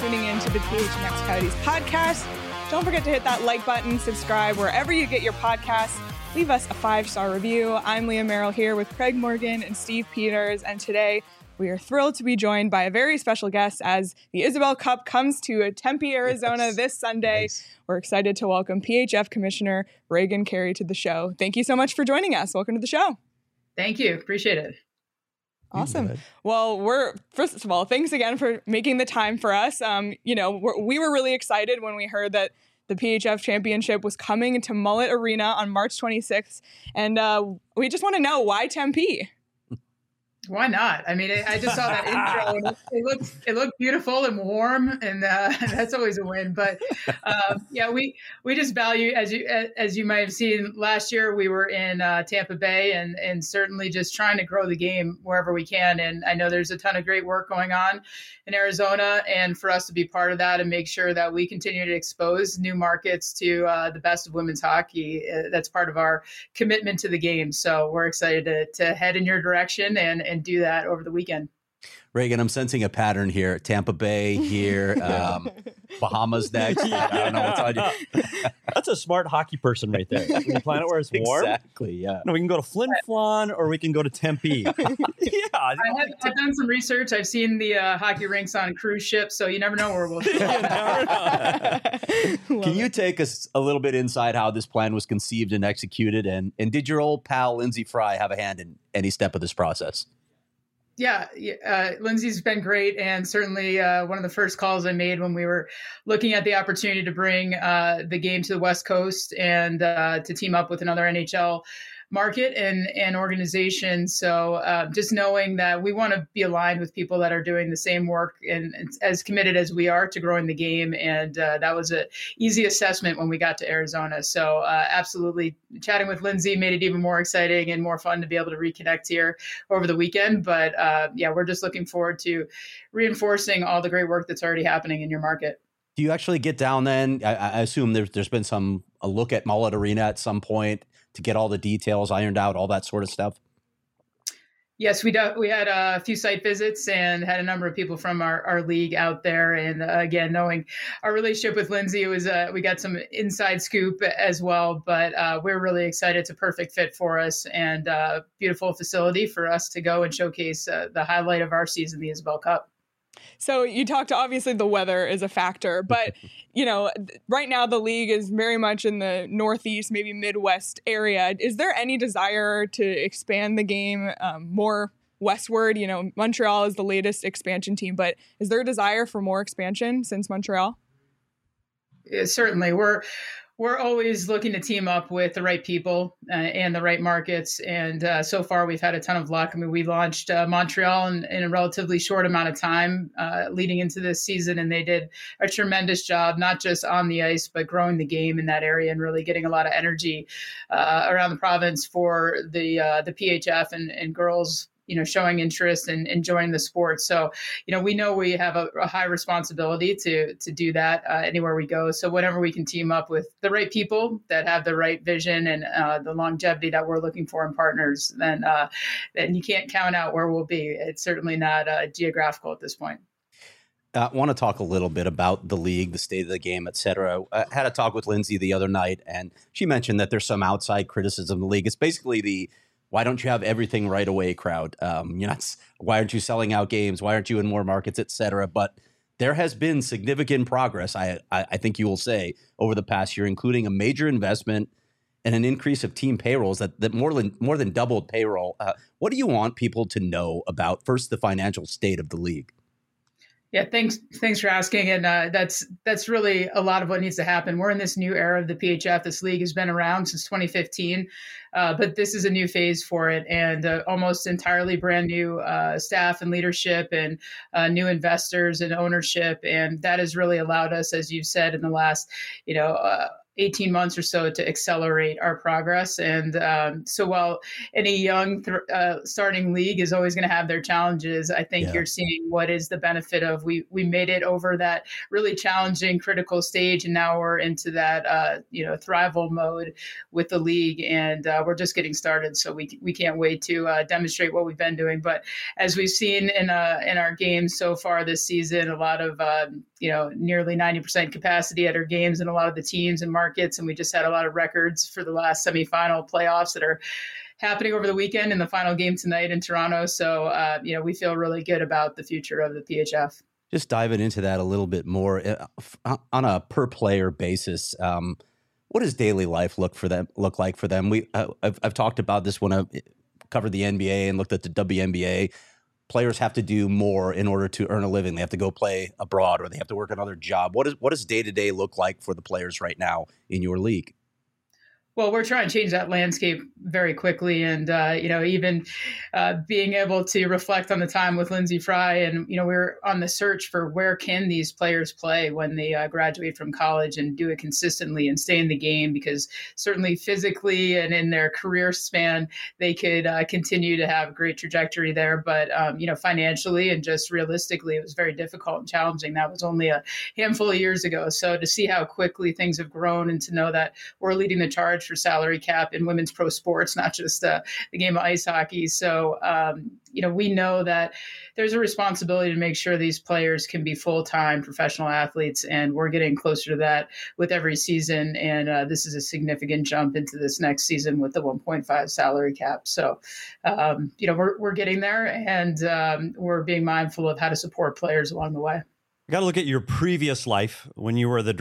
tuning in to the PHNX Coyotes podcast. Don't forget to hit that like button, subscribe wherever you get your podcasts. Leave us a 5-star review. I'm Leah Merrill here with Craig Morgan and Steve Peters, and today we are thrilled to be joined by a very special guest as the Isabel Cup comes to Tempe, Arizona this Sunday. Nice. We're excited to welcome PHF Commissioner Reagan Carey to the show. Thank you so much for joining us. Welcome to the show. Thank you. Appreciate it. Awesome. Well, first of all, thanks again for making the time for us. We were really excited when we heard that the PHF Championship was coming to Mullet Arena on March 26th. And we just want to know, why Tempe? Why not? I mean, I just saw that intro and it looked beautiful and warm, and that's always a win. But we just value, as you might have seen last year, we were in Tampa Bay and certainly just trying to grow the game wherever we can. And I know there's a ton of great work going on in Arizona, and for us to be part of that and make sure that we continue to expose new markets to the best of women's hockey, that's part of our commitment to the game. So we're excited to head in your direction and do that over the weekend. Reagan, I'm sensing a pattern here. Tampa Bay here, Bahamas next. I don't know what's on you. That's a smart hockey person right there. We can plan it where it's warm. Exactly, yeah. No, we can go to Flin Flon or we can go to Tempe. I've done some research. I've seen the hockey rinks on cruise ships, so you never know where we'll go. Can you take us a little bit inside how this plan was conceived and executed? And did your old pal, Lindsay Fry, have a hand in any step of this process? Yeah, Lindsay's been great, and certainly one of the first calls I made when we were looking at the opportunity to bring the game to the West Coast and to team up with another NHL market and organization. So just knowing that we want to be aligned with people that are doing the same work and as committed as we are to growing the game. And that was an easy assessment when we got to Arizona. So absolutely chatting with Lindsay made it even more exciting and more fun to be able to reconnect here over the weekend. But we're just looking forward to reinforcing all the great work that's already happening in your market. Do you actually get down then? I assume there's been a look at Mullet Arena at some point to get all the details ironed out, all that sort of stuff? Yes, we had a few site visits and had a number of people from our league out there. And again, knowing our relationship with Lindsay, it was we got some inside scoop as well. But we're really excited. It's a perfect fit for us and beautiful facility for us to go and showcase the highlight of our season, the Isabel Cup. So you talked, obviously the weather is a factor, but right now the league is very much in the Northeast, maybe Midwest area. Is there any desire to expand the game more westward? Montreal is the latest expansion team, but is there a desire for more expansion since Montreal? Yeah, certainly. We're always looking to team up with the right people and the right markets. And so far, we've had a ton of luck. I mean, we launched Montreal in a relatively short amount of time leading into this season. And they did a tremendous job, not just on the ice, but growing the game in that area and really getting a lot of energy around the province for the PHF and girls showing interest and enjoying the sport. So, we know we have a high responsibility to do that anywhere we go. So whenever we can team up with the right people that have the right vision and the longevity that we're looking for in partners, then you can't count out where we'll be. It's certainly not geographical at this point. I want to talk a little bit about the league, the state of the game, et cetera. I had a talk with Lindsay the other night, and she mentioned that there's some outside criticism of the league. It's basically the why don't you have everything right away crowd? Why aren't you selling out games? Why aren't you in more markets, et cetera? But there has been significant progress, I think you will say, over the past year, including a major investment and an increase of team payrolls that more than doubled payroll. What do you want people to know about, first, the financial state of the league? Yeah, thanks for asking. And that's really a lot of what needs to happen. We're in this new era of the PHF. This league has been around since 2015, but this is a new phase for it and almost entirely brand new staff and leadership and new investors and ownership. And that has really allowed us, as you've said, in the last, 18 months or so to accelerate our progress. And so while any young starting league is always going to have their challenges, I think you're seeing what is the benefit of we made it over that really challenging critical stage. And now we're into that, thrival mode with the league. And we're just getting started. So we can't wait to demonstrate what we've been doing. But as we've seen in our games so far this season, a lot of, nearly 90% capacity at our games and a lot of the teams and markets. And we just had a lot of records for the last semifinal playoffs that are happening over the weekend and the final game tonight in Toronto. So, we feel really good about the future of the PHF. Just diving into that a little bit more on a per player basis. What does daily life look like for them? I've talked about this when I covered the NBA and looked at the WNBA. Players have to do more in order to earn a living. They have to go play abroad or they have to work another job. What does day-to-day look like for the players right now in your league? Well, we're trying to change that landscape very quickly. And, even being able to reflect on the time with Lindsey Fry. And, we're on the search for where can these players play when they graduate from college and do it consistently and stay in the game, because certainly physically and in their career span, they could continue to have a great trajectory there. But, financially and just realistically, it was very difficult and challenging. That was only a handful of years ago. So to see how quickly things have grown and to know that we're leading the charge for salary cap in women's pro sports, not just the game of ice hockey. So, we know that there's a responsibility to make sure these players can be full-time professional athletes, and we're getting closer to that with every season. And this is a significant jump into this next season with the 1.5 salary cap. So, we're getting there, and we're being mindful of how to support players along the way. I got to look at your previous life when you were the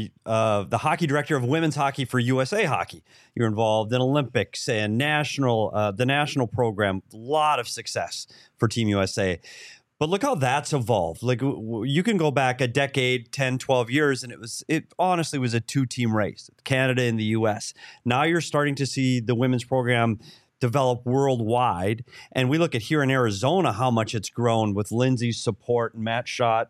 hockey director of women's hockey for USA Hockey. You were involved in Olympics and the national program. A lot of success for Team USA. But look how that's evolved. Like, you can go back a decade, 10, 12 years, and it honestly was a two-team race, Canada and the US. Now you're starting to see the women's program develop worldwide. And we look at here in Arizona, how much it's grown with Lindsey's support and Matt Schott,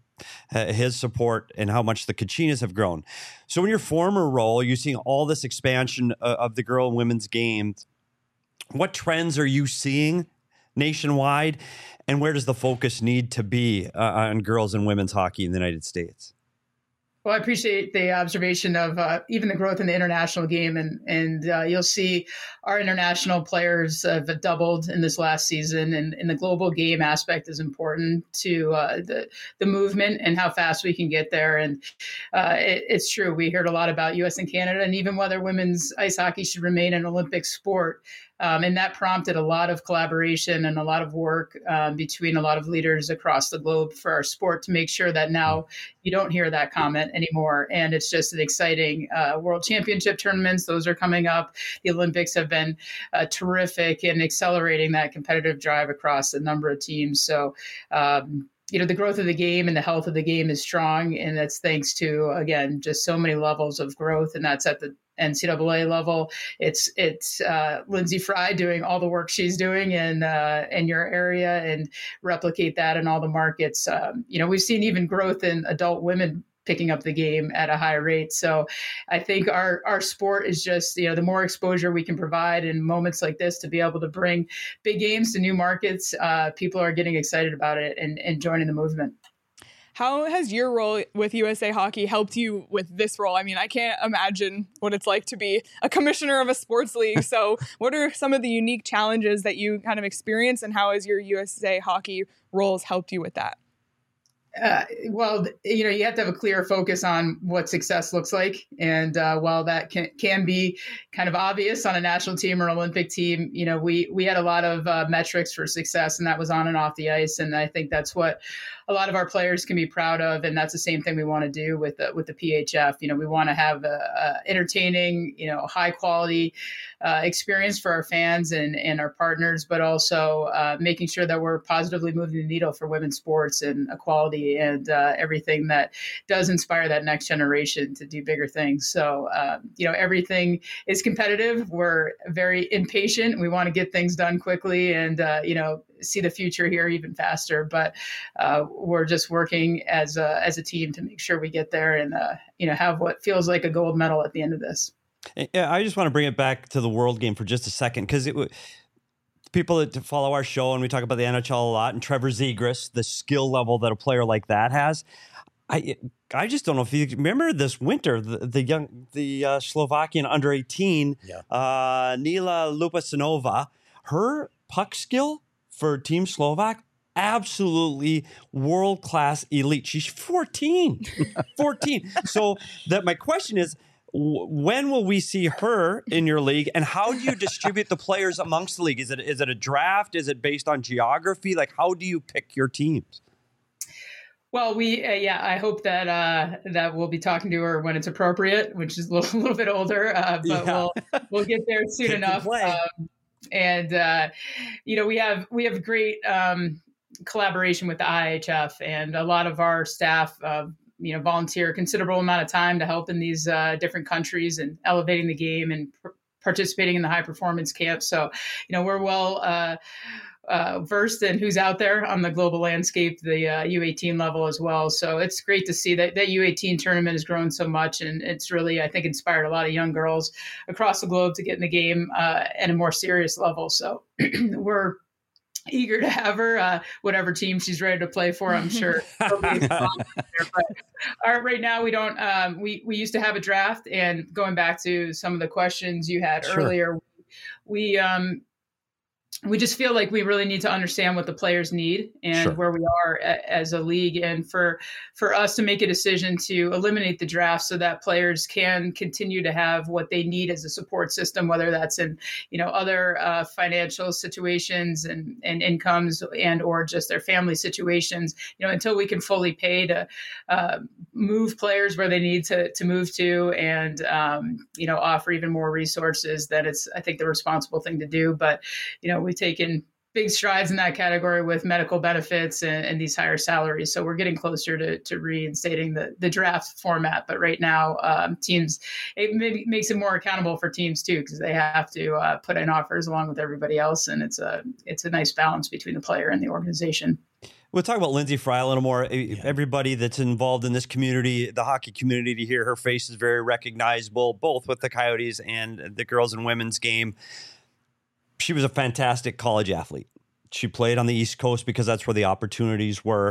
his support, and how much the Kachinas have grown. So in your former role, you're seeing all this expansion of the girl and women's games. What trends are you seeing nationwide, and where does the focus need to be on girls and women's hockey in the United States? Well, I appreciate the observation of even the growth in the international game, and you'll see our international players have doubled in this last season, and the global game aspect is important to the movement and how fast we can get there. And it's true, we heard a lot about U.S. and Canada, and even whether women's ice hockey should remain an Olympic sport. And that prompted a lot of collaboration and a lot of work between a lot of leaders across the globe for our sport to make sure that now you don't hear that comment anymore. And it's just an exciting World Championship tournaments. Those are coming up. The Olympics have been terrific in accelerating that competitive drive across a number of teams. So, the growth of the game and the health of the game is strong. And that's thanks to, again, just so many levels of growth. And that's at the NCAA level. It's Lindsey Fry doing all the work she's doing in your area and replicate that in all the markets. We've seen even growth in adult women picking up the game at a high rate. So I think our sport is just, the more exposure we can provide in moments like this to be able to bring big games to new markets, people are getting excited about it and joining the movement. How has your role with USA Hockey helped you with this role? I mean, I can't imagine what it's like to be a commissioner of a sports league. So what are some of the unique challenges that you kind of experience, and how has your USA Hockey roles helped you with that? Well, you have to have a clear focus on what success looks like. And while that can be kind of obvious on a national team or Olympic team, we had a lot of metrics for success, and that was on and off the ice. And I think that's what a lot of our players can be proud of. And that's the same thing we want to do with the PHF. We want to have a entertaining, high quality experience for our fans and our partners, but also making sure that we're positively moving the needle for women's sports and equality and everything that does inspire that next generation to do bigger things. So, everything is competitive. We're very impatient. We want to get things done quickly. And, see the future here even faster. But we're just working as a team to make sure we get there and have what feels like a gold medal at the end of this. Yeah, I just want to bring it back to the World Game for just a second, because people that follow our show and we talk about the NHL a lot, and Trevor Zegras, the skill level that a player like that has. I just don't know if you remember this winter, the Slovakian under 18, Nila Lupasinova, her puck skill for Team Slovak, absolutely world-class elite. She's 14. So my question is, when will we see her in your league, and how do you distribute the players amongst the league? Is it a draft? Is it based on geography? Like, how do you pick your teams? Well, I hope that we'll be talking to her when it's appropriate, which is a little bit older, but we'll get there soon enough. We have great collaboration with the IHF, and a lot of our staff, volunteer a considerable amount of time to help in these different countries and elevating the game and participating in the high performance camp. So, we're well versed in who's out there on the global landscape, the U18 level as well. So it's great to see that U18 tournament has grown so much, and it's really, I think, inspired a lot of young girls across the globe to get in the game at a more serious level. So we're eager to have her, whatever team she's ready to play for, I'm sure. But right now we don't, we used to have a draft, and going back to some of the questions you had earlier, we just feel like we really need to understand what the players need and where we are as a league. And for us to make a decision to eliminate the draft so that players can continue to have what they need as a support system, whether that's in, other financial situations and incomes and or just their family situations, until we can fully pay to move players where they need to move to and, offer even more resources, that it's, I think, the responsible thing to do. But, we've taken big strides in that category with medical benefits and these higher salaries. So we're getting closer to reinstating the draft format. But right now, teams, it maybe makes it more accountable for teams too, because they have to put in offers along with everybody else. And it's a nice balance between the player and the organization. We'll talk about Lindsay Fry a little more. Everybody that's involved in this community, the hockey community, to hear her face is very recognizable, both with the Coyotes and the girls and women's game. She was a fantastic college athlete. She played on the East Coast because that's where the opportunities were.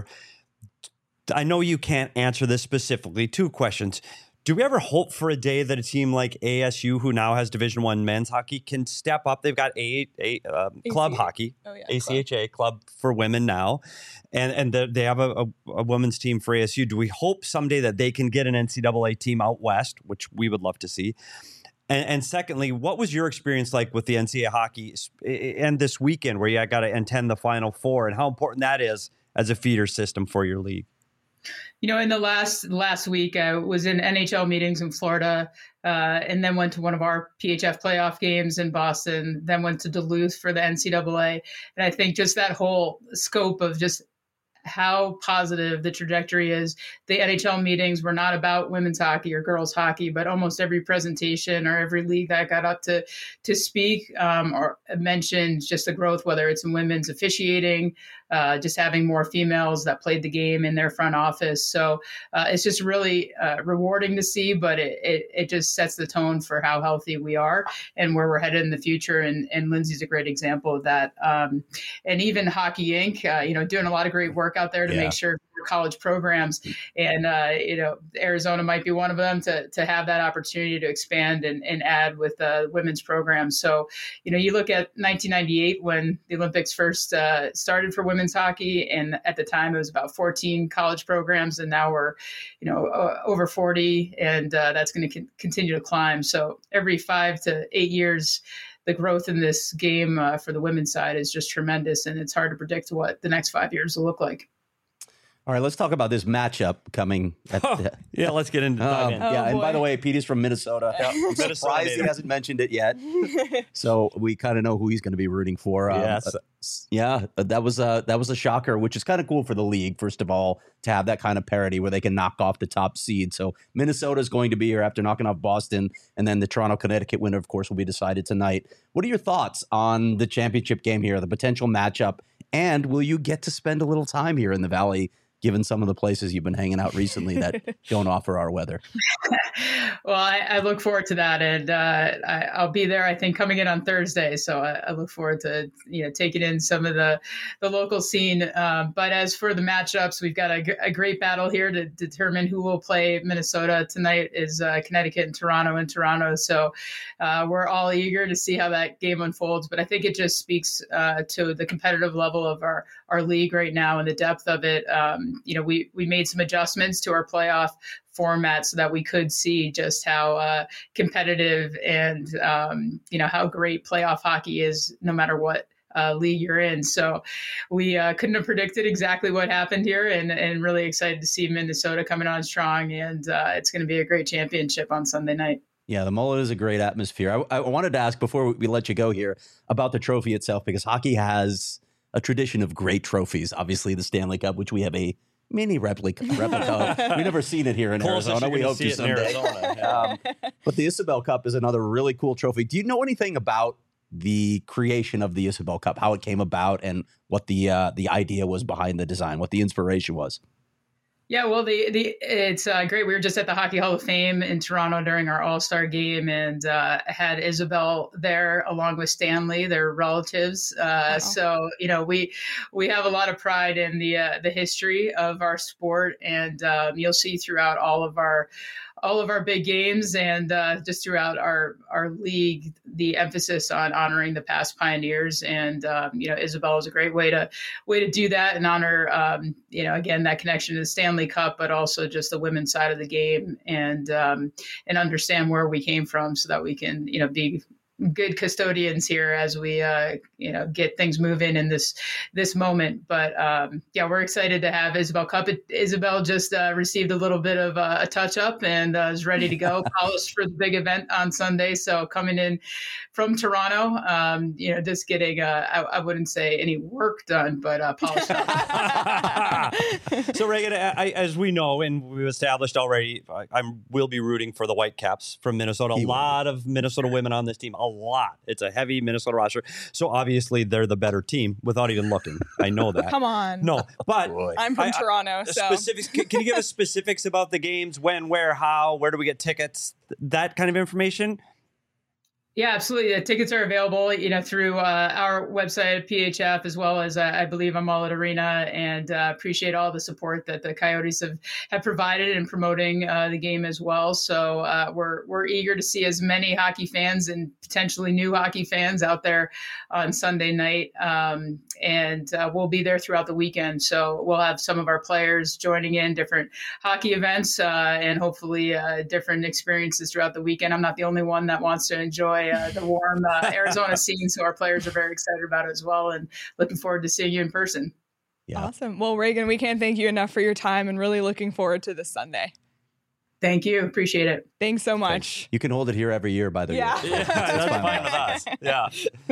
I know you can't answer this specifically. 2 questions. Do we ever hope for a day that a team like ASU, who now has Division I men's hockey, can step up? They've got club hockey, ACHA club for women now, and they have a women's team for ASU. Do we hope someday that they can get an NCAA team out west, which we would love to see? And secondly, what was your experience like with the NCAA hockey and this weekend where you got to attend the Final Four, and how important that is as a feeder system for your league? In the last week, I was in NHL meetings in Florida, and then went to one of our PHF playoff games in Boston, then went to Duluth for the NCAA. And I think just that whole scope of just how positive the trajectory is. The NHL meetings were not about women's hockey or girls hockey, but almost every presentation or every league that got up to speak or mentioned just the growth, whether it's in women's officiating, just having more females that played the game in their front office. So it's just really rewarding to see, but it just sets the tone for how healthy we are and where we're headed in the future. And Lindsay's a great example of that. And even Hockey Inc., doing a lot of great work out there to make sure college programs, and Arizona might be one of them to have that opportunity to expand and add with women's programs. So you look at 1998 when the Olympics first started for women's hockey, and at the time it was about 14 college programs, and now we're over 40, and that's going to continue to climb. So every 5 to 8 years, the growth in this game for the women's side is just tremendous, and it's hard to predict what the next 5 years will look like. All right, let's talk about this matchup coming. Let's get into that. And by the way, Petey's from Minnesota. I'm surprised he hasn't mentioned it yet. So we kind of know who he's going to be rooting for. That was a shocker, which is kind of cool for the league, first of all, to have that kind of parity where they can knock off the top seed. So Minnesota is going to be here after knocking off Boston, and then the Toronto-Connecticut winner, of course, will be decided tonight. What are your thoughts on the championship game here, the potential matchup, And will you get to spend a little time here in the Valley, given some of the places you've been hanging out recently that don't offer our weather? Well, I look forward to that, and I'll be there, I think, coming in on Thursday. So I look forward to taking in some of the local scene. But as for the matchups, we've got a great battle here to determine who will play Minnesota tonight. Is Connecticut and Toronto. So we're all eager to see how that game unfolds. But I think it just speaks to the competitive level of our league right now and the depth of it. We made some adjustments to our playoff format so that we could see just how competitive and how great playoff hockey is, no matter what league you're in. So we couldn't have predicted exactly what happened here, and really excited to see Minnesota coming on strong. And it's going to be a great championship on Sunday night. Yeah, the Mullet is a great atmosphere. I wanted to ask before we let you go here about the trophy itself, because hockey has a tradition of great trophies. Obviously, the Stanley Cup, which we have a mini replica of. We've never seen it here in Arizona. We hope to someday. But the Isabel Cup is another really cool trophy. Do you know anything about the creation of the Isabel Cup, how it came about, and what the idea was behind the design, what the inspiration was? Yeah, well, it's great. We were just at the Hockey Hall of Fame in Toronto during our All-Star game, and had Isabel there along with Stanley, their relatives. Wow. So we have a lot of pride in the history of our sport, and you'll see throughout all of our big games and just throughout our league, the emphasis on honoring the past pioneers. And Isabel is a great way to do that and honor again, that connection to the Stanley Cup, but also just the women's side of the game, and understand where we came from, so that we can be good custodians here as we get things moving in this moment. But we're excited to have Isabel Cup. Isabel just received a little bit of a touch up and is ready to go, polished for the big event on Sunday. So coming in from Toronto, just getting I wouldn't say any work done, but polished up. So Reagan, as we know and we've established already, we'll be rooting for the Whitecaps from Minnesota. A lot of Minnesota women on this team. A lot. It's a heavy Minnesota roster. So obviously they're the better team without even looking. I know that. Come on. No, but I'm from Toronto. So specifics. Can you give us specifics about the games? When, where, how? Where do we get tickets? That kind of information? Yeah, absolutely. The tickets are available, through our website, PHF, as well as I believe on Mullet Arena, and appreciate all the support that the Coyotes have provided in promoting the game as well. So we're eager to see as many hockey fans and potentially new hockey fans out there on Sunday night, and we'll be there throughout the weekend. So we'll have some of our players joining in different hockey events and hopefully different experiences throughout the weekend. I'm not the only one that wants to enjoy the warm Arizona scene, so our players are very excited about it as well, and looking forward to seeing you in person. Yeah. Awesome. Well, Reagan, we can't thank you enough for your time, and really looking forward to this Sunday. Thank you. Appreciate it. Thanks so much. You can hold it here every year, by the way. Yeah. That's fine with us. Yeah.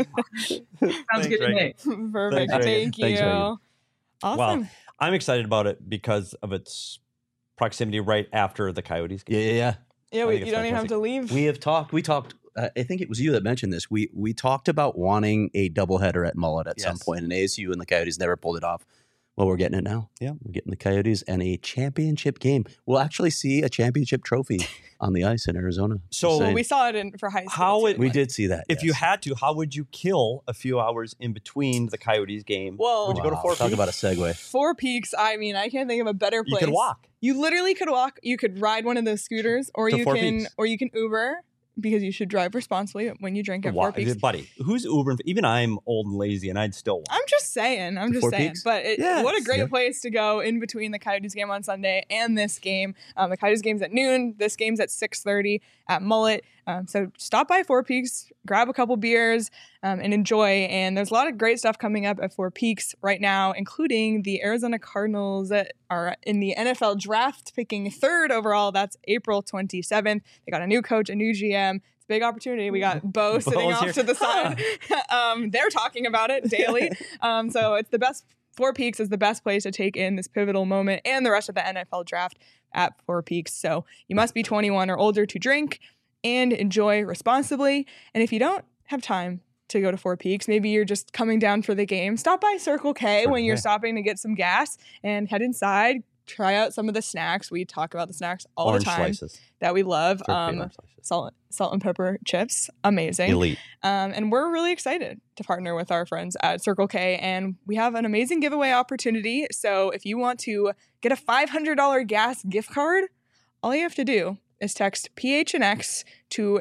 Sounds good to me. Perfect. Thank you. Awesome. Awesome. Well, I'm excited about it because of its proximity right after the Coyotes game. Yeah. Yeah, you don't even have to leave. We talked. I think it was you that mentioned this. We talked about wanting a doubleheader at Mullet at some point, and ASU and the Coyotes never pulled it off. Well, we're getting it now. Yeah, we're getting the Coyotes and a championship game. We'll actually see a championship trophy on the ice in Arizona. So we saw it for high school. We did see that. If you had to, how would you kill a few hours in between the Coyotes game? Well, would you go to Four Peaks? Talk about a segue. Four Peaks. I mean, I can't think of a better place. You could walk. You literally could walk. You could ride one of those scooters, or you can Uber. Because you should drive responsibly when you drink at Four Peaks. Buddy, who's Ubering? Even I'm old and lazy, and I'd still walk. I'm just saying. But what a great place to go in between the Coyotes game on Sunday and this game. The Coyotes game's at noon. This game's at 6:30 at Mullet. So stop by Four Peaks, grab a couple beers, and enjoy. And there's a lot of great stuff coming up at Four Peaks right now, including the Arizona Cardinals that are in the NFL draft, picking 3rd overall. That's April 27th. They got a new coach, a new GM. It's a big opportunity. We got Bo sitting off to the side. They're talking about it daily. So it's the best. Four Peaks is the best place to take in this pivotal moment and the rest of the NFL draft at Four Peaks. So you must be 21 or older to drink and enjoy responsibly. And if you don't have time to go to Four Peaks. Maybe you're just coming down for the game. Stop by Circle K when you're K. stopping to get some gas and head inside. Try out some of the snacks. We talk about the snacks all Orange the time slices. that we love. Orange slices. Salt and pepper chips, amazing. Elite. And we're really excited to partner with our friends at Circle K. And we have an amazing giveaway opportunity. So if you want to get a $500 gas gift card, all you have to do is text PHNX to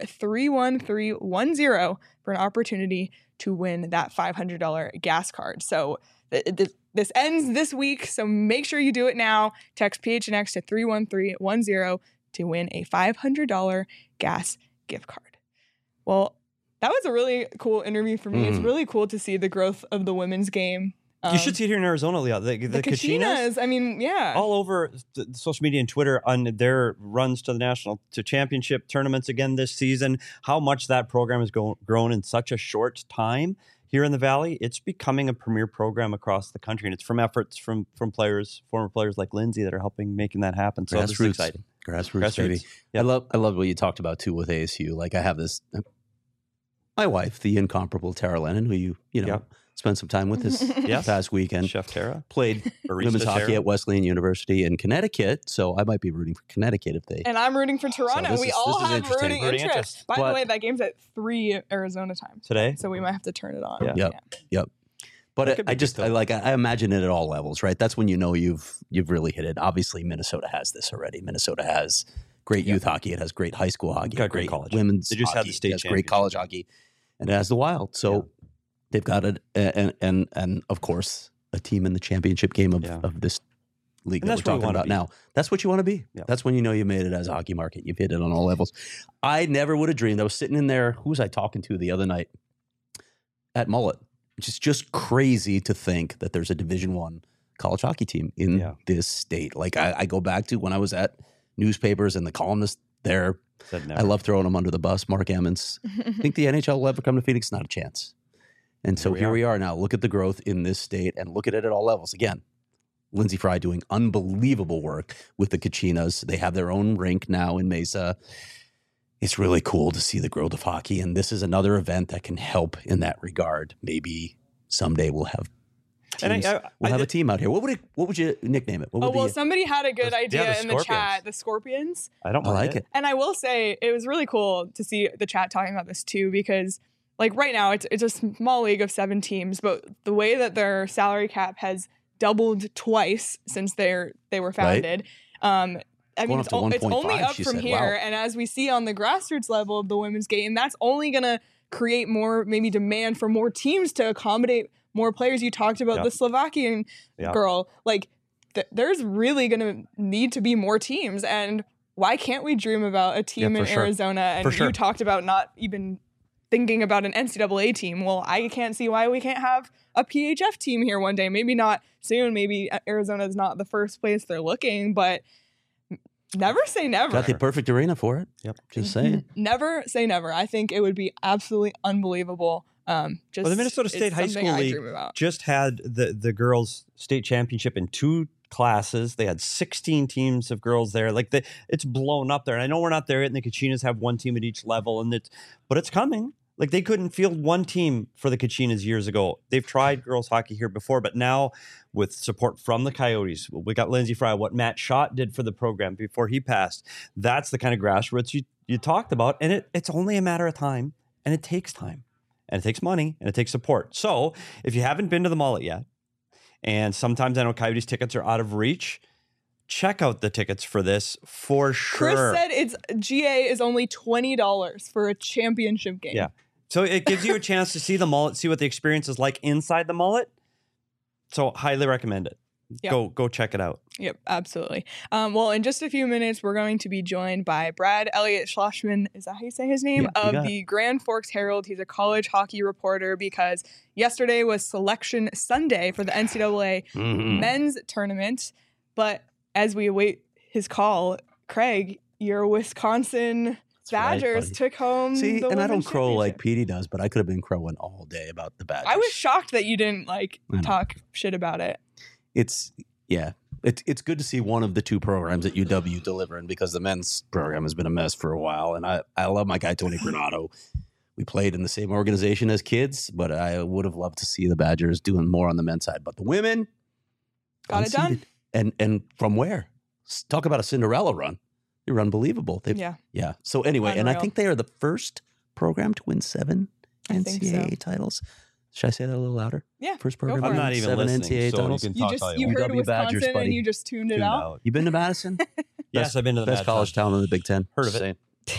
31310 for an opportunity to win that $500 gas card. So this ends this week, so make sure you do it now. Text PHNX to 31310 to win a $500 gas gift card. Well, that was a really cool interview for me. It's really cool to see the growth of the women's game. You should see it here in Arizona, Leah. The Kachinas, I mean, yeah. all over the social media and Twitter on their runs to the championship tournaments again this season. How much that program has grown in such a short time here in the Valley. It's becoming a premier program across the country, and it's from efforts from former players like Lindsay that are helping making that happen. So this is exciting. Grassroots, baby. Yep. I love what you talked about too with ASU. Like I have this, my wife, the incomparable Tara Lennon, who you spent some time with this past weekend. Chef Tara played women's hockey at Wesleyan University in Connecticut, so I might be rooting for Connecticut if they. And I'm rooting for Toronto. So we all have interesting. rooting interest. By the way, that game's at 3 Arizona time today, so we might have to turn it on. Yep. But I imagine it at all levels, right? That's when you know you've really hit it. Obviously, Minnesota has this already. Minnesota has great youth hockey. It has great high school hockey. Got great college women's. They just hockey. had the state It has great college hockey, and it has the Wild. So they've got it, and of course a team in the championship game of this league that we're talking about now. That's what you want to be. Yeah. That's when you know you made it as a hockey market. You've hit it on all levels. I never would have dreamed. I was sitting in there. Who was I talking to the other night at Mullet? It's just crazy to think that there's a Division I college hockey team in this state. Like I go back to when I was at newspapers and the columnist there. I love throwing them under the bus. Mark Emmons. I think the NHL will ever come to Phoenix? Not a chance. And so here we are now. Look at the growth in this state and look at it at all levels. Again, Lindsay Fry doing unbelievable work with the Kachinas. They have their own rink now in Mesa. It's really cool to see the growth of hockey, and this is another event that can help in that regard. Maybe someday we'll have teams. We'll have a team out here. What would you nickname it? Somebody had a good idea in the chat. The Scorpions. I like it. And I will say it was really cool to see the chat talking about this too, because like right now it's a small league of 7 teams, but the way that their salary cap has doubled twice since they were founded. Right. I mean, it's only up from here. Wow. And as we see on the grassroots level of the women's game, that's only going to create more maybe demand for more teams to accommodate more players. You talked about the Slovakian girl. Like, there's really going to need to be more teams. And why can't we dream about a team in Arizona? And you talked about not even thinking about an NCAA team. Well, I can't see why we can't have a PHF team here one day. Maybe not soon. Maybe Arizona is not the first place they're looking, but never say never. Got the perfect arena for it. Yep. Just saying. Never say never. I think it would be absolutely unbelievable. The Minnesota State High School League just had the girls' state championship in 2 classes. They had 16 teams of girls there. Like it's blown up there. And I know we're not there yet, and the Kachinas have 1 team at each level, but it's coming. Like they couldn't field 1 team for the Kachinas years ago. They've tried girls hockey here before, but now with support from the Coyotes, we got Lindsay Fry, what Matt Schott did for the program before he passed. That's the kind of grassroots you talked about. And it's only a matter of time, and it takes time, and it takes money, and it takes support. So if you haven't been to the Mullet yet, and sometimes I know Coyotes tickets are out of reach, check out the tickets for this for sure. Chris said GA is only $20 for a championship game. Yeah. So it gives you a chance to see the Mullet, see what the experience is like inside the Mullet. So highly recommend it. Yep. Go check it out. Yep, absolutely. Well, in just a few minutes, we're going to be joined by Brad Elliott Schlossman. Is that how you say his name? Of the Grand Forks Herald. He's a college hockey reporter because yesterday was Selection Sunday for the NCAA men's tournament. But as we await his call, Craig, your Wisconsin Badgers took home the and I don't crow like Petey does, but I could have been crowing all day about the Badgers. I was shocked that you didn't talk shit about it. It's good to see one of the 2 programs at UW delivering, because the men's program has been a mess for a while. And I love my guy Tony Granato. We played in the same organization as kids, but I would have loved to see the Badgers doing more on the men's side. But the women Got it done. And from where? Talk about a Cinderella run. They were unbelievable. Yeah. So anyway, and I Unreal. think they are the first program to win 7 I think so. NCAA titles. Should I say that a little louder? Yeah, First go program for to I'm it. win not even 7 listening, NCAA so titles. you can You talk all just you you want. heard UW Wisconsin Badgers, buddy. and you just tuned it Tuned out. out. You been to Madison? Yes, I've been to the Best Mad college Town. town in the Big Ten. Heard of it. Saying.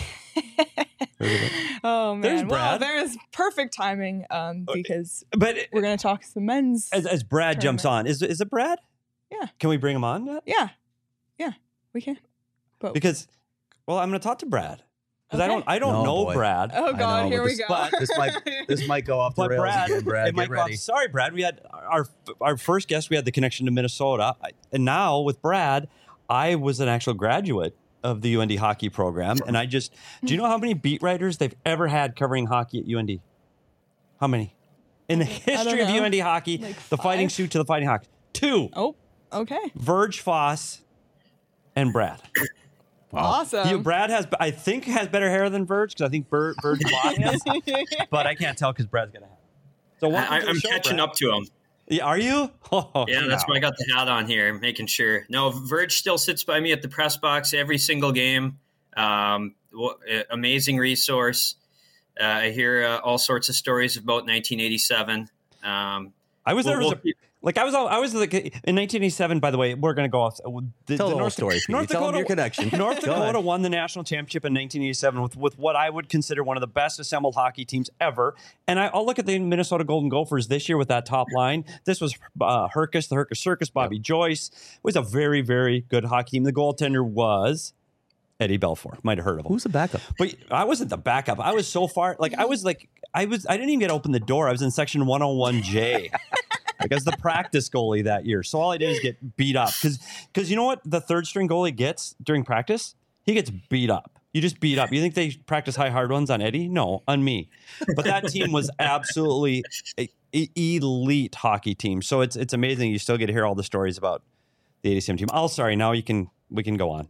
Heard of it. Oh man, There's well, Brad. there's perfect timing because But we're gonna talk some men's. as Brad jumps on, is it Brad? Yeah. Can we bring him on yet? Yeah, we can. But Because, well, I'm going to talk to Brad because Okay. I don't No, know boy. Brad. oh I god, know, here but we go. but This might go off the But rails Brad, again, Brad. it might Get go off- ready. Sorry, Brad. We had our first guest. We had the connection to Minnesota, and now with Brad, I was an actual graduate of the UND hockey program, and do you know how many beat writers they've ever had covering hockey at UND? How many in the history of know. UND hockey? Like the Fighting 5? Sioux to the Fighting Hawks. 2: Oh, okay, Verge Foss and Brad. awesome. Brad I think has better hair than Verge because I think Verge Foss has, but I can't tell because Brad's gonna have. So welcome to the I'm show, catching Brad. up to him. Yeah, are you? Oh, Yeah, that's no. why I got the hat on here, making sure. No, Verge still sits by me at the press box every single game. Amazing resource. I hear all sorts of stories about 1987. I was there. I was like in 1987. By the way, we're going to go off. Tell the whole story, Pete. North Tell them Dakota, your connection. North Go ahead. Dakota won the national championship in 1987 with what I would consider one of the best assembled hockey teams ever. And I'll look at the Minnesota Golden Gophers this year with that top line. This was Herkus, the Herkus Circus, Bobby Joyce. It was a very, very good hockey team. The goaltender was Eddie Belfour. Might have heard of him. Who's the backup? But I wasn't the backup. I was so far. I didn't even get to open the door. I was in section 101J. I was the practice goalie that year. So all I did is get beat up. Because you know what the third string goalie gets during practice? He gets beat up. You just beat up. You think they practice high hard ones on Eddie? No, on me. But that team was absolutely an elite hockey team. So it's amazing. You still get to hear all the stories about the 87 team. Oh, sorry. Now we can go on.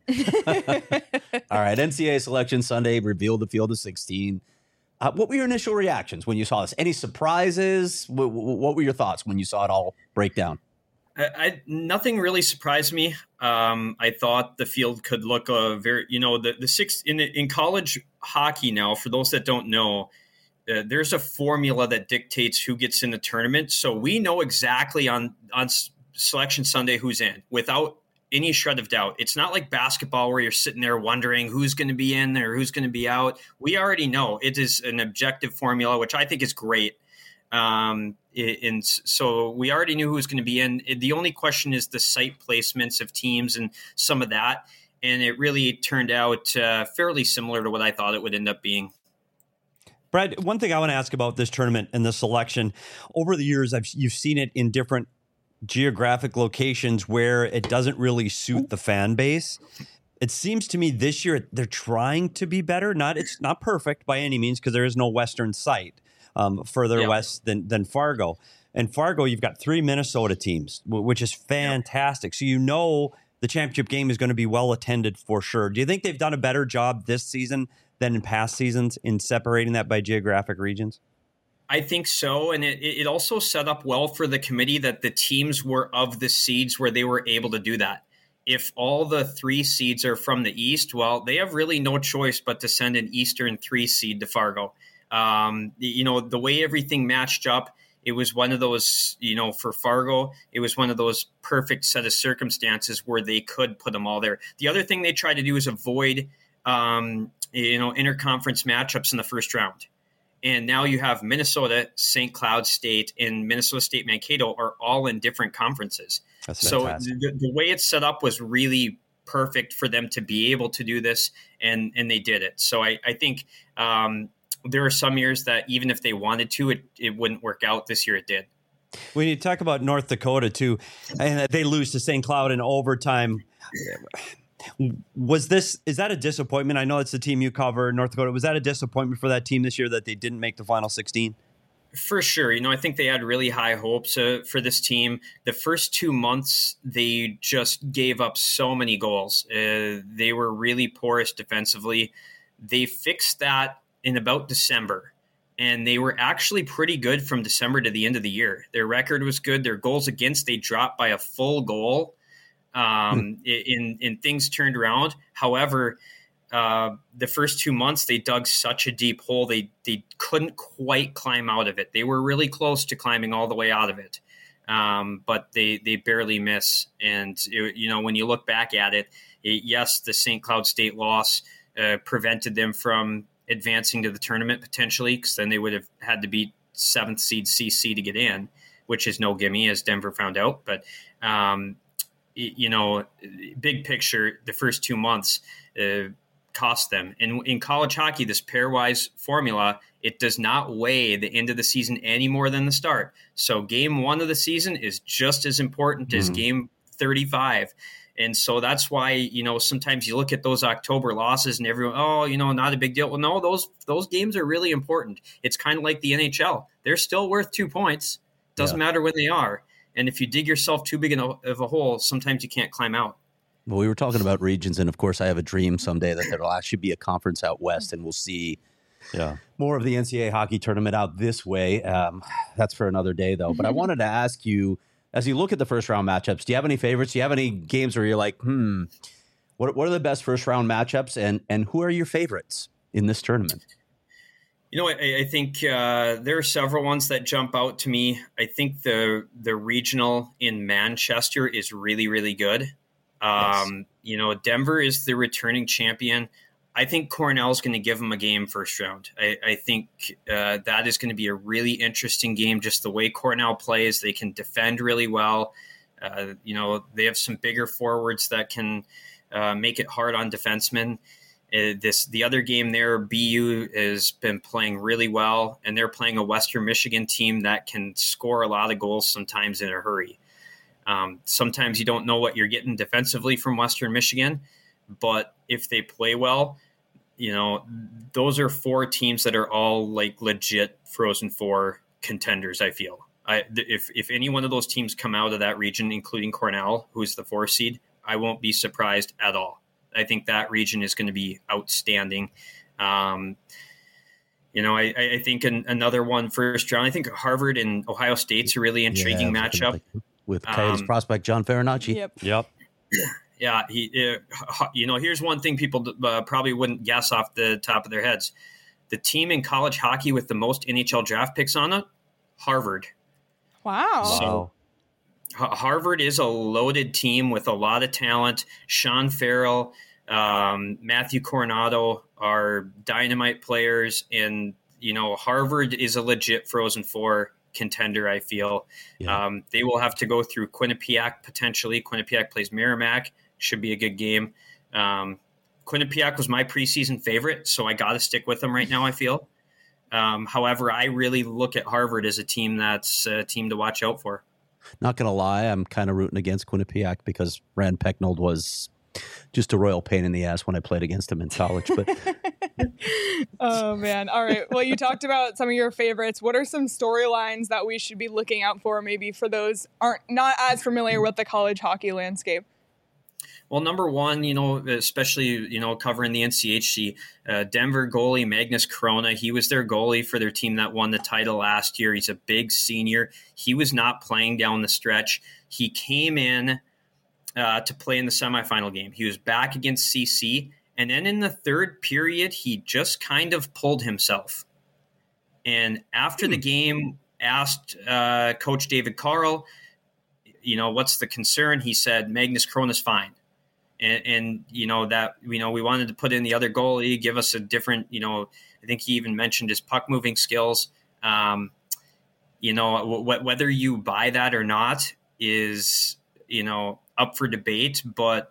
All right, NCAA selection Sunday revealed the field of 16. What were your initial reactions when you saw this? Any surprises? What were your thoughts when you saw it all break down? Nothing really surprised me. I thought the field could look very, the six in college hockey now. For those that don't know, there's a formula that dictates who gets in the tournament. So we know exactly on Selection Sunday who's in without any shred of doubt. It's not like basketball where you're sitting there wondering who's going to be in or who's going to be out. We already know it is an objective formula, which I think is great. And so we already knew who was going to be in. The only question is the site placements of teams and some of that. And it really turned out fairly similar to what I thought it would end up being. Brad, one thing I want to ask about this tournament and the selection, over the years, you've seen it in different geographic locations where it doesn't really suit the fan base. It seems to me this year they're trying to be better. It's not perfect by any means because there is no Western site further west than Fargo. And Fargo, you've got 3 Minnesota teams, which is fantastic. So the championship game is going to be well attended for sure. Do you think they've done a better job this season than in past seasons in separating that by geographic regions? I think so. And it also set up well for the committee that the teams were of the seeds where they were able to do that. If all the 3 seeds are from the East, well, they have really no choice but to send an Eastern 3 seed to Fargo. The way everything matched up, it was one of those, for Fargo, it was one of those perfect set of circumstances where they could put them all there. The other thing they tried to do is avoid, interconference matchups in the first round. And now you have Minnesota, St. Cloud State, and Minnesota State Mankato are all in different conferences. That's so fantastic. the way it's set up was really perfect for them to be able to do this, and they did it. So I think there are some years that even if they wanted to, it wouldn't work out. This year it did. When you talk about North Dakota, too, and they lose to St. Cloud in overtime, is that a disappointment? I know it's the team you cover, North Dakota. Was that a disappointment for that team this year that they didn't make the final 16? For sure. I think they had really high hopes for this team. The first 2 months, they just gave up so many goals. They were really porous defensively. They fixed that in about December. and they were actually pretty good from December to the end of the year. Their record was good. Their goals against, they dropped by a full goal. In things turned around. However, the first 2 months, they dug such a deep hole. They couldn't quite climb out of it. They were really close to climbing all the way out of it. But they barely miss. And, when you look back at it, yes, the St. Cloud State loss prevented them from advancing to the tournament potentially, because then they would have had to beat 7th seed CC to get in, which is no gimme, as Denver found out. But, big picture, the first 2 months cost them. And in college hockey, this pairwise formula, it does not weigh the end of the season any more than the start. So game 1 of the season is just as important as game 35. And so that's why, sometimes you look at those October losses and everyone, not a big deal. Well, no, those games are really important. It's kind of like the NHL. They're still worth 2 points. Doesn't matter when they are. And if you dig yourself too big of a hole, sometimes you can't climb out. Well, we were talking about regions, and of course, I have a dream someday that there will actually be a conference out west, and we'll see more of the NCAA hockey tournament out this way. That's for another day, though. But I wanted to ask you, as you look at the first round matchups, do you have any favorites? Do you have any games where you're like, what are the best first round matchups, and who are your favorites in this tournament? I think there are several ones that jump out to me. I think the regional in Manchester is really, really good. Yes. Denver is the returning champion. I think Cornell's going to give them a game first round. I think that is going to be a really interesting game, just the way Cornell plays. They can defend really well. They have some bigger forwards that can make it hard on defensemen. The other game there, BU has been playing really well, and they're playing a Western Michigan team that can score a lot of goals sometimes in a hurry. Sometimes you don't know what you're getting defensively from Western Michigan, but if they play well, those are 4 teams that are all like legit Frozen Four contenders. I feel if any one of those teams come out of that region, including Cornell, who's the 4 seed, I won't be surprised at all. I think that region is going to be outstanding. I think another one first round, I think Harvard and Ohio State's a really intriguing matchup. With Coyotes prospect John Farinacci. Yep. Yeah. Here's one thing people probably wouldn't guess off the top of their heads. The team in college hockey with the most NHL draft picks on it, Harvard. Wow. So, Harvard is a loaded team with a lot of talent. Sean Farrell, Matthew Coronado are dynamite players. And, Harvard is a legit Frozen Four contender, I feel. Yeah. They will have to go through Quinnipiac potentially. Quinnipiac plays Merrimack. Should be a good game. Quinnipiac was my preseason favorite, so I got to stick with them right now, I feel. However, I really look at Harvard as a team that's a team to watch out for. Not going to lie, I'm kind of rooting against Quinnipiac because Rand Pecknold was just a royal pain in the ass when I played against him in college. But oh, man. All right. Well, you talked about some of your favorites. What are some storylines that we should be looking out for, maybe for those aren't not as familiar with the college hockey landscape? Well, number one, especially, covering the NCHC, Denver goalie Magnus Corona, he was their goalie for their team that won the title last year. He's a big senior. He was not playing down the stretch. He came in to play in the semifinal game. He was back against CC. And then in the third period, he just kind of pulled himself. And after the game, asked Coach David Carl, what's the concern? He said, Magnus Corona's fine. And we wanted to put in the other goalie, give us a different, I think he even mentioned his puck moving skills. Whether you buy that or not is, up for debate. But,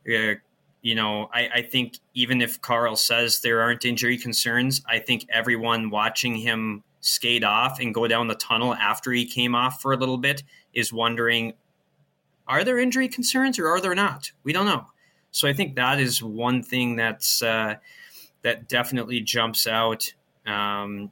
I think even if Carl says there aren't injury concerns, I think everyone watching him skate off and go down the tunnel after he came off for a little bit is wondering, are there injury concerns or are there not? We don't know. So I think that is one thing that's that definitely jumps out. In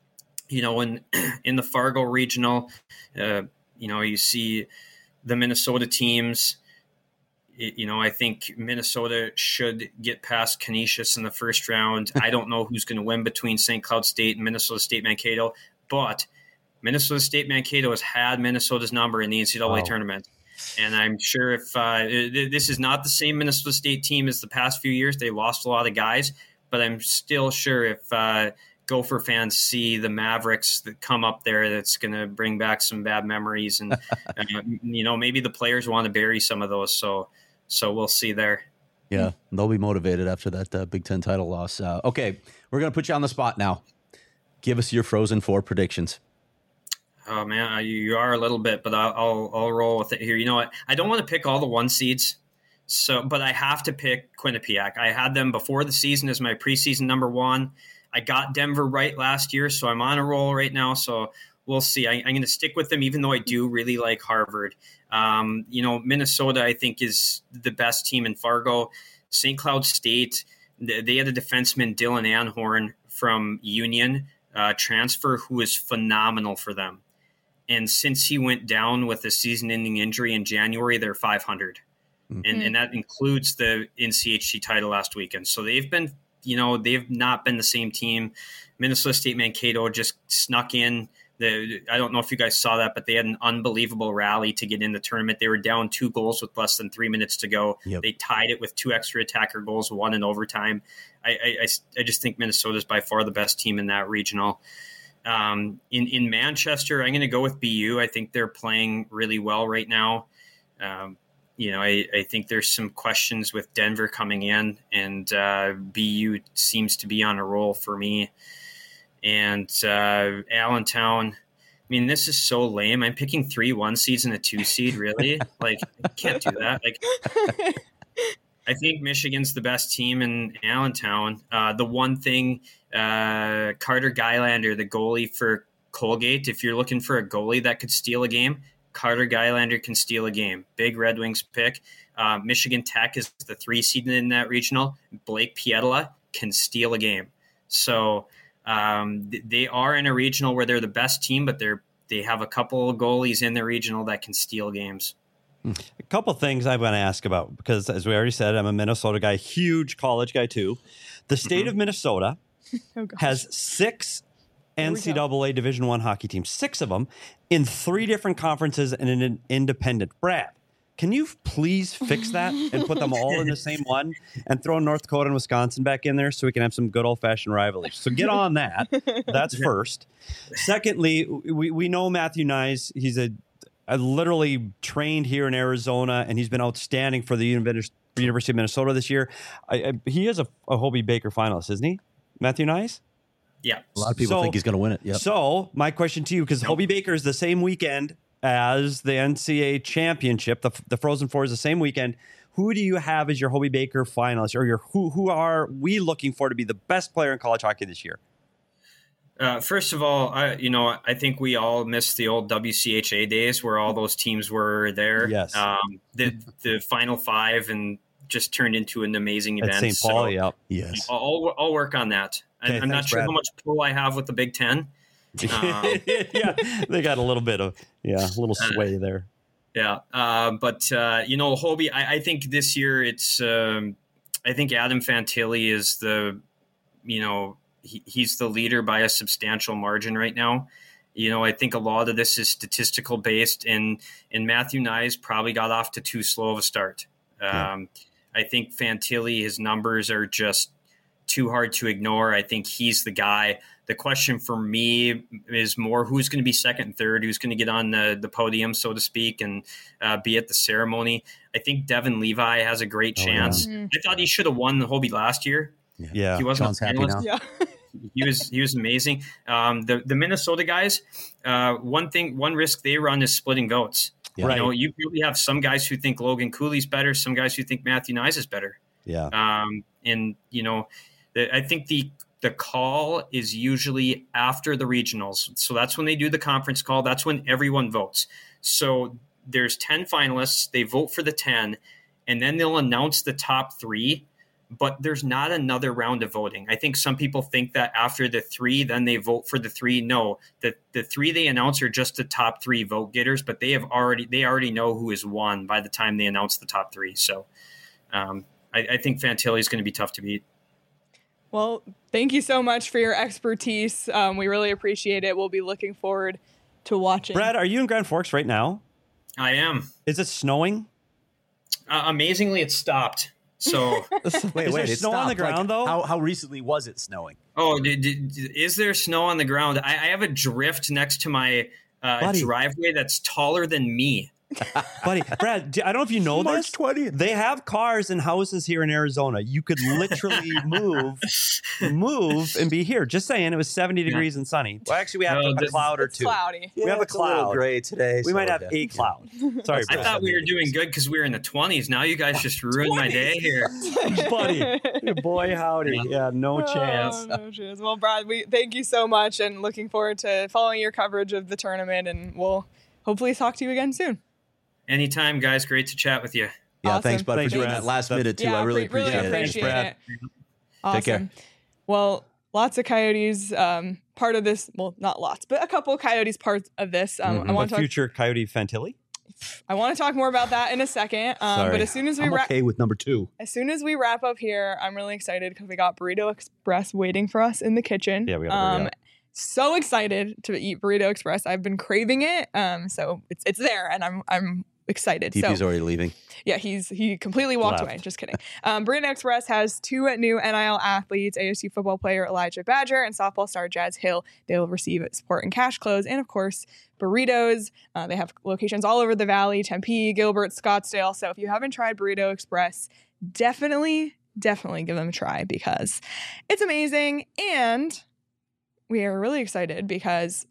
the Fargo regional, you see the Minnesota teams. I think Minnesota should get past Canisius in the first round. I don't know who's going to win between St. Cloud State and Minnesota State Mankato, but Minnesota State Mankato has had Minnesota's number in the NCAA tournament. And I'm sure if this is not the same Minnesota State team as the past few years, they lost a lot of guys, but I'm still sure if Gopher fans see the Mavericks that come up there, that's going to bring back some bad memories. And, maybe the players want to bury some of those. So we'll see there. Yeah, they'll be motivated after that Big Ten title loss. Okay, we're going to put you on the spot now. Give us your Frozen Four predictions. Oh man, you are a little bit, but I'll roll with it here. You know what? I don't want to pick all the 1 seeds, but I have to pick Quinnipiac. I had them before the season as my preseason number 1. I got Denver right last year, so I'm on a roll right now. So we'll see. I'm going to stick with them, even though I do really like Harvard. Minnesota, I think, is the best team in Fargo. St. Cloud State, they had a defenseman, Dylan Anhorn from Union transfer, who is phenomenal for them. And since he went down with a season-ending injury in January, they're 500. Mm-hmm. And that includes the NCHC title last weekend. So they've been, they've not been the same team. Minnesota State Mankato just snuck in. I don't know if you guys saw that, but they had an unbelievable rally to get in the tournament. They were down 2 goals with less than 3 minutes to go. Yep. They tied it with 2 extra attacker goals, 1 in overtime. I just think Minnesota is by far the best team in that regional. In Manchester, I'm going to go with BU. I think they're playing really well right now. I think there's some questions with Denver coming in, and BU seems to be on a roll for me. And Allentown, I mean, this is so lame. I'm picking 3 1 seeds and a 2 seed, really? I can't do that. I think Michigan's the best team in Allentown. The one thing, Carter Gylander, the goalie for Colgate, if you're looking for a goalie that could steal a game, Carter Gylander can steal a game. Big Red Wings pick. Michigan Tech is the 3 seed in that regional. Blake Pietila can steal a game. So they are in a regional where they're the best team, but they have a couple of goalies in the regional that can steal games. A couple things I want to ask about, because as we already said, I'm a Minnesota guy, huge college guy too. The state of Minnesota has 6 NCAA Division I hockey teams, 6 of them in 3 different conferences and in an independent. Brad, can you please fix that and put them all in the same one and throw North Dakota and Wisconsin back in there so we can have some good old-fashioned rivalry? So get on that. That's first. Secondly, we know Matthew Knies. He's a literally trained here in Arizona, and he's been outstanding for the University of Minnesota this year. He is a Hobey Baker finalist, isn't he, Matthew Knies? Yeah. A lot of people think he's going to win it. Yep. So my question to you, because Hobey Baker is the same weekend as the NCAA championship, the Frozen Four is the same weekend. Who do you have as your Hobey Baker finalist, or who are we looking for to be the best player in college hockey this year? First of all, I think we all miss the old WCHA days where all those teams were there. Yes. The Final 5 and just turned into an amazing event. At St. Paul, yep. Yes. I'll work on that. Okay, I'm not sure Brad. how much pull I have with the Big Ten. Yeah, they got a little bit of a little sway there. Yeah, but Hobey, I think this year it's. I think Adam Fantilli is he's the leader by a substantial margin right now. I think a lot of this is statistical based, and Matthew Knies probably got off to too slow of a start. I think Fantilli, his numbers are just too hard to ignore. I think he's the guy. The question for me is more who's going to be second and third, who's going to get on the podium, so to speak, and be at the ceremony. I think Devin Levi has a great chance. Yeah. I thought he should have won the Hobey last year. Yeah. He wasn't Sean's happy now. Yeah. He was amazing. The Minnesota guys, one risk they run is splitting votes. Yeah. Right. You really have some guys who think Logan Cooley's better, some guys who think Matthew Knies is better. Yeah. I think the call is usually after the regionals. So that's when they do the conference call. That's when everyone votes. So there's 10 finalists. They vote for the 10, and then they'll announce the top 3. but there's not another round of voting. I think some people think that after the 3, then they vote for the 3. No, the 3 they announce are just the top 3 vote getters, but they already know who is won by the time they announce the top 3. So I think Fantilli is going to be tough to beat. Well, thank you so much for your expertise. We really appreciate it. We'll be looking forward to watching. Brad, are you in Grand Forks right now? I am. Is it snowing? Amazingly, it stopped. So wait, is there it snow on the stopped. ground, Like, though? How recently was it snowing? Oh, is there snow on the ground? I have a drift next to my driveway that's taller than me. Buddy, Brad, I don't know if you know March this. 20th. They have cars and houses here in Arizona. You could literally move and be here. Just saying, it was 70 degrees and sunny. Well, actually, we have a cloud or It's two. cloudy. We have a it's little cloud. gray today. We so, might have yeah. a cloud. Sorry, I Brad. thought we were doing good because we were in the 20s. Now you guys just ruined my day here. Buddy, boy, howdy. Yeah, no chance. Oh, no chance. Well, Brad, we thank you so much and looking forward to following your coverage of the tournament, and we'll hopefully talk to you again soon. Anytime, guys. Great to chat with you. Yeah, Awesome. thanks, bud, Thanks, for doing Brad. that last minute, too. Yeah, I really really appreciate it. appreciate Brad. it. Awesome. Take care. Well, lots of Coyotes part of this. Well, not lots, but a couple Coyotes parts of this. I want But to talk. future Coyote Fantilli? I want to talk more about that in a second. But as soon as we I'm okay with number 2. wrap up here, I'm really excited because we got Burrito Express waiting for us in the kitchen. Yeah, we got to hurry up. So excited to eat Burrito Express. I've been craving it. So it's there, and I'm excited. DP's So already leaving. yeah, he completely walked Left. away. Just kidding. Burrito Express has 2 new NIL athletes: ASU football player Elijah Badger and softball star Jazz Hill. They will receive support in cash, clothes, and of course burritos. They have locations all over the valley: Tempe, Gilbert, Scottsdale. So if you haven't tried Burrito Express, definitely give them a try because it's amazing. And we are really excited because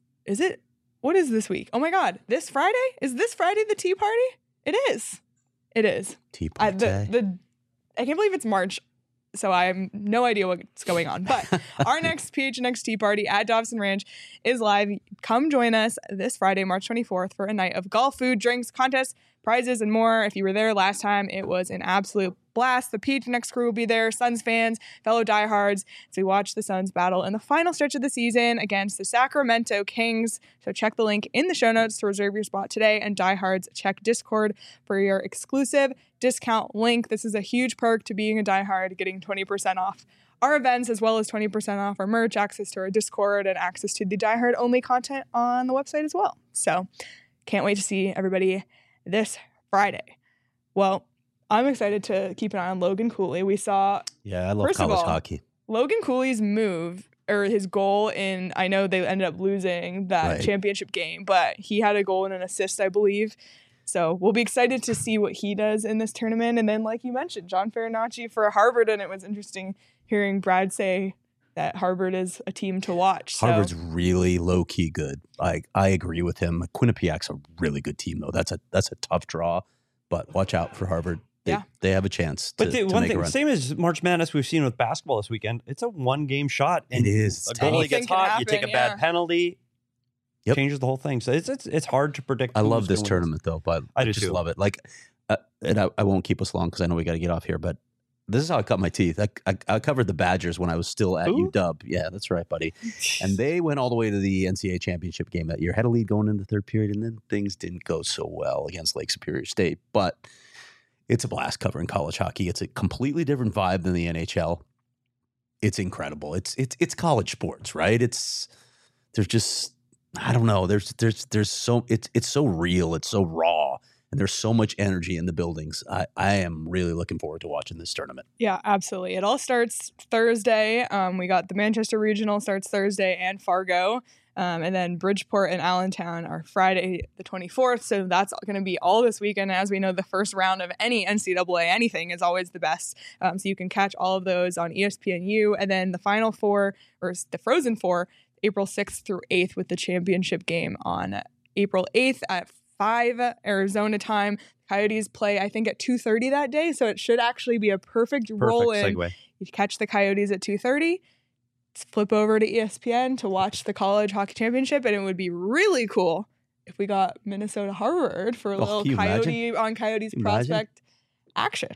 what is this week? Oh my God, this Friday? Is this Friday the tea party? It is. It is. Tea I party. can't believe it's March, so I have no idea what's going on. But our next PHNX Tea Party at Dobson Ranch is live. Come join us this Friday, March 24th, for a night of golf, food, drinks, contests, prizes, and more. If you were there last time, it was an absolute blast. The PHNX crew will be there, Suns fans, fellow diehards, as we watch the Suns battle in the final stretch of the season against the Sacramento Kings. So check the link in the show notes to reserve your spot today. And diehards, check Discord for your exclusive discount link. This is a huge perk to being a diehard, getting 20% off our events as well as 20% off our merch, access to our Discord, and access to the diehard only content on the website as well. So can't wait to see everybody this Friday. Well, I'm excited to keep an eye on Logan Cooley. We saw Yeah, I love First of college all, hockey. Logan Cooley's move or his goal in, I know they ended up losing that Right. championship game, but he had a goal and an assist, I believe. So we'll be excited to see what he does in this tournament. And then, like you mentioned, John Farinacci for Harvard. And it was interesting hearing Brad say that Harvard is a team to watch. So Harvard's really low key good. I agree with him. Quinnipiac's a really good team though. That's a tough draw, but watch out for Harvard. They have a chance. But to one make a thing, run. same as March Madness we've seen with basketball this weekend, it's a 1-game shot. And It is. a goalie Anything gets can hot, you take a happen, bad yeah. penalty, Yep. changes the whole thing. So it's hard to predict. I love who's this gonna win tournament though, but I do just too. love it. Like, and I won't keep us long because I know we got to get off here. But this is how I cut my teeth. I covered the Badgers when I was still at Who? UW. Yeah, that's right, buddy. And they went all the way to the NCAA championship game that year. Had a lead going into the third period, and then things didn't go so well against Lake Superior State. But it's a blast covering college hockey. It's a completely different vibe than the NHL. It's incredible. It's college sports, right? There's just, I don't know. There's so it's so real. It's so raw, and there's so much energy in the buildings. I am really looking forward to watching this tournament. yeah, absolutely. It all starts Thursday. We got the Manchester Regional starts Thursday and Fargo. And then Bridgeport and Allentown are Friday the 24th. So that's going to be all this weekend. As we know, the first round of any NCAA anything is always the best. So you can catch all of those on ESPNU. And then the Final Four, or the Frozen Four, April 6th through 8th with the championship game on April 8th at 5 Arizona time. Coyotes play, I think, at 2:30 that day. So it should actually be a perfect roll in. segue. You catch the Coyotes at 2:30. Flip over to ESPN to watch the college hockey championship, and it would be really cool if we got Minnesota Harvard for a little can you Coyote on Coyotes Can you imagine? prospect action.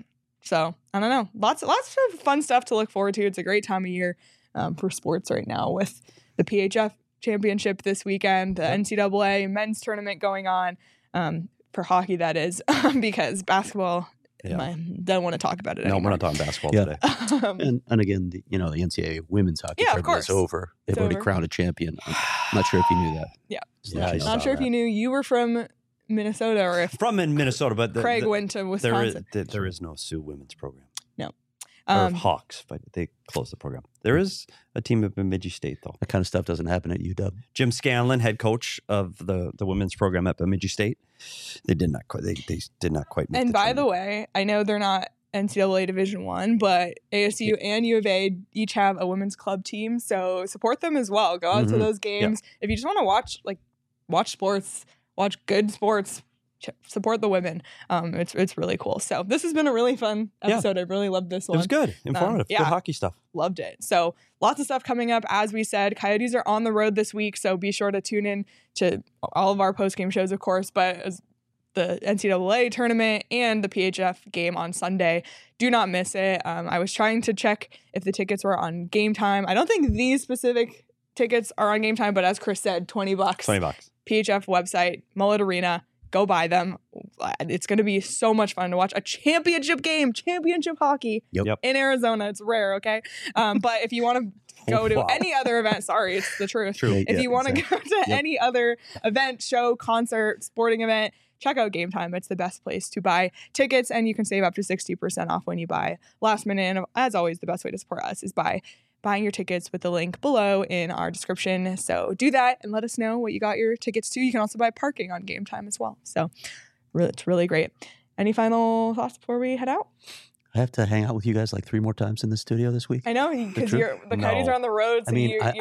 So I don't know. Lots of fun stuff to look forward to. It's a great time of year for sports right now with the PHF championship this weekend, the NCAA men's tournament going on for hockey, that is, because basketball, I don't want to talk about it anymore. No, we're not talking basketball today. And again, the NCAA women's hockey tournament is over. They've already crowned a champion. I'm not sure if you knew that. Yeah. Not sure if you knew. You were from Minnesota, or if from in Minnesota, but Craig went to Wisconsin. There is no Sioux women's program. No. Or Hawks, but they closed the program. There is a team at Bemidji State, though. That kind of stuff doesn't happen at UW. Jim Scanlon, head coach of the women's program at Bemidji State, they did not quite. They did not quite. Make and the by tournament. the way, I know they're not NCAA Division I, but ASU and U of A each have a women's club team, so support them as well. Go out to those games if you just want to watch sports, watch good sports. Support the women. It's really cool. So this has been a really fun episode. I really loved this one. It was good, informative, good hockey stuff. Loved it. So lots of stuff coming up. As we said, Coyotes are on the road this week, so be sure to tune in to all of our post-game shows, of course, but as the NCAA tournament and the PHF game on Sunday. Do not miss it. I was trying to check if the tickets were on Game Time. I don't think these specific tickets are on Game Time, but as Chris said, $20. $20. PHF website, Mullet Arena. Go buy them. It's going to be so much fun to watch a championship game, championship hockey in Arizona. It's rare, okay? But if you want to go to any other event, sorry, it's the truth. If you want to go to any other event, show, concert, sporting event, check out Game Time. It's the best place to buy tickets, and you can save up to 60% off when you buy last minute. And as always, the best way to support us is by buying your tickets with the link below in our description. So do that and let us know what you got your tickets to. You can also buy parking on Game Time as well. So it's really great. Any final thoughts before we head out? I have to hang out with you guys like 3 more times in the studio this week. I know, because the Coyotes are on the road. So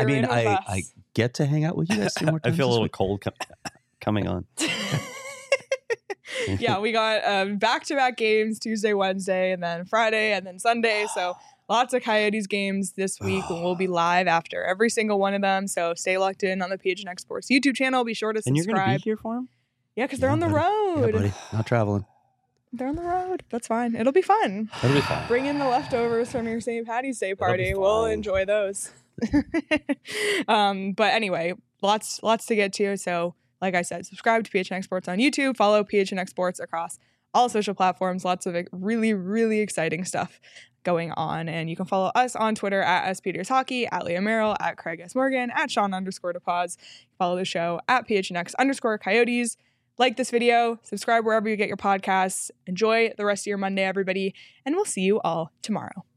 I get to hang out with you guys 3 more times. I feel a little cold coming on. Yeah, we got back-to-back games, Tuesday, Wednesday, and then Friday, and then Sunday. So lots of Coyotes games this week, and we'll be live after every single one of them. So stay locked in on the PHNX Sports YouTube channel. Be sure to subscribe. And you're going to be here for them? Yeah, because they're on the road. Yeah, buddy. Not traveling. They're on the road. That's fine. It'll be fun. It'll be fun. Bring in the leftovers from your St. Patty's Day party. We'll enjoy those. But anyway, lots to get to. So like I said, subscribe to PHNX Sports on YouTube. Follow PHNX Sports across all social platforms. Lots of really, really exciting stuff going on. And you can follow us on Twitter at SPetersHockey, at Leah Merrill, at Craig S. Morgan, at Sean_DePaz. Follow the show at PHNX_Coyotes. Like this video, subscribe wherever you get your podcasts. Enjoy the rest of your Monday, everybody, and we'll see you all tomorrow.